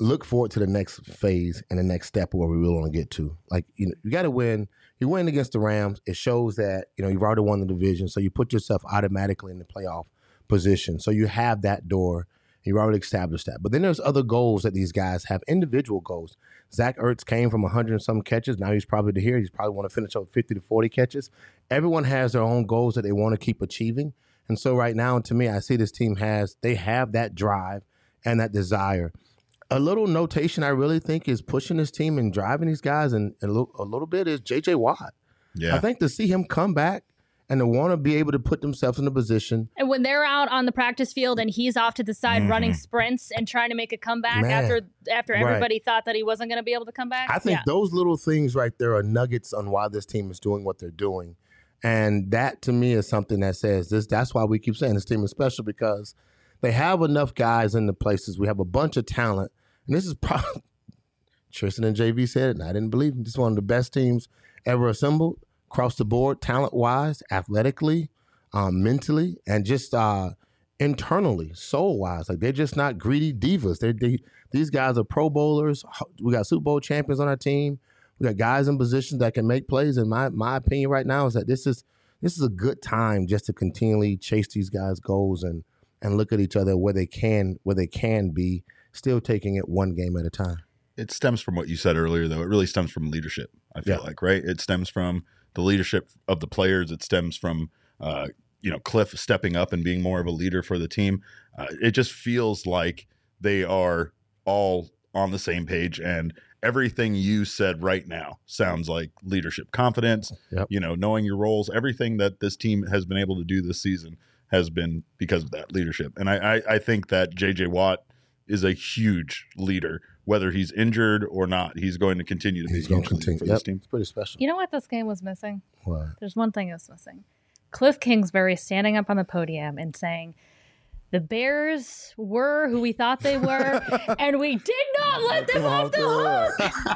look forward to the next phase and the next step where we really want to get to. Like, you know, you got to win. You win against the Rams. It shows that, you know, you've already won the division. So you put yourself automatically in the playoff position. So you have that door. You already established that. But then there's other goals that these guys have, individual goals. Zach Ertz came from one hundred and some catches. Now he's probably to here. He's probably want to finish up fifty to forty catches. Everyone has their own goals that they want to keep achieving. And so right now, to me, I see this team has, they have that drive and that desire. A little notation I really think is pushing this team and driving these guys and, and a, little, a little bit is J J Watt. Yeah. I think to see him come back and to want to be able to put themselves in a position. And when they're out on the practice field and he's off to the side mm-hmm. running sprints and trying to make a comeback Man. after after everybody Right. thought that he wasn't going to be able to come back. I think yeah. those little things right there are nuggets on why this team is doing what they're doing. And that to me is something that says this. That's why we keep saying this team is special, because they have enough guys in the places. We have a bunch of talent. And this is probably, Tristan and J V said it, and I didn't believe him. This is one of the best teams ever assembled across the board, talent-wise, athletically, um, mentally, and just uh, internally, soul-wise. Like, they're just not greedy divas. They're, they, these guys are Pro Bowlers. We got Super Bowl champions on our team. We got guys in positions that can make plays. And my my opinion right now is that this is this is a good time just to continually chase these guys' goals and and look at each other where they can where they can be, still taking it one game at a time. It stems from what you said earlier, though. It really stems from leadership, I feel Yeah. like, right? It stems from the leadership of the players. It stems from, uh, you know, Cliff stepping up and being more of a leader for the team. Uh, it just feels like they are all on the same page, and everything you said right now sounds like leadership, confidence, Yep. you know, knowing your roles. Everything that this team has been able to do this season has been because of that leadership. And I, I, I think that J J Watt is a huge leader, whether he's injured or not. He's going to continue to be He's a going huge to leader continue. for Yep. this team. It's pretty special. You know what this game was missing? What? There's one thing that's missing. Cliff Kingsbury standing up on the podium and saying, the Bears were who we thought they were, and we did not let them off the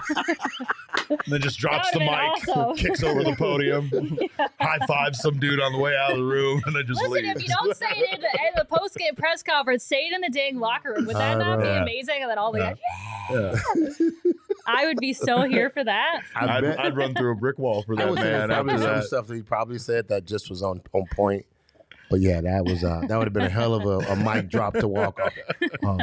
hook. And then just drops That the would've mic, been awesome. kicks over the podium, Yeah. high fives some dude on the way out of the room, and then just Listen, leaves. if you don't say it in the, in the post-game press conference, say it in the dang locker room. Would that I not know. be Yeah. amazing? And then all the Yeah. guys, Yeah. I would be so here for that. I I'd, bet. I'd run through a brick wall for I that would say man there's probably after some that. stuff that he probably said that just was on, on point. But yeah, that was uh, that would have been a hell of a, a mic drop to walk off. Um,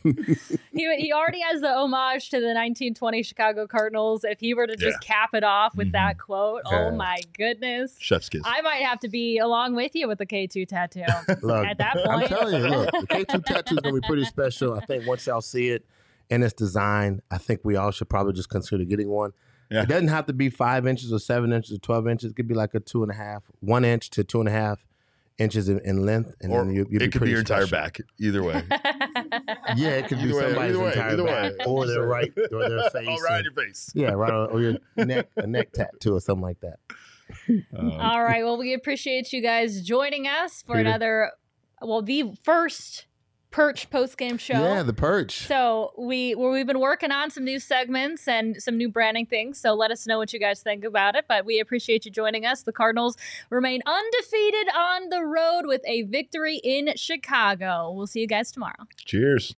He he already has the homage to the nineteen twenty Chicago Cardinals. If he were to just cap it off with Mhm. that quote, Yeah. oh my goodness. Chef's kiss. I might have to be along with you with the K two tattoo. Look, At that I'm point. telling you, look, the K two tattoo is going to be pretty special. I think once y'all see it in its design, I think we all should probably just consider getting one. Yeah. It doesn't have to be five inches or seven inches or twelve inches. It could be like a two and a half, one inch to two and a half inches in, in length. And Or then you, you'll it could be pretty your entire special. back. Either way. Yeah, it could be Either way, somebody's either way, entire either back way. or their right or their face. All right, and- your face. yeah, right on, or your neck, a neck tattoo or something like that. Um, All right. Well, we appreciate you guys joining us for Peter. another, well, the first Perch post-game show. Yeah, the perch. So we well, we've been working on some new segments and some new branding things. So let us know what you guys think about it. But we appreciate you joining us. The Cardinals remain undefeated on the road with a victory in Chicago. We'll see you guys tomorrow. cheers.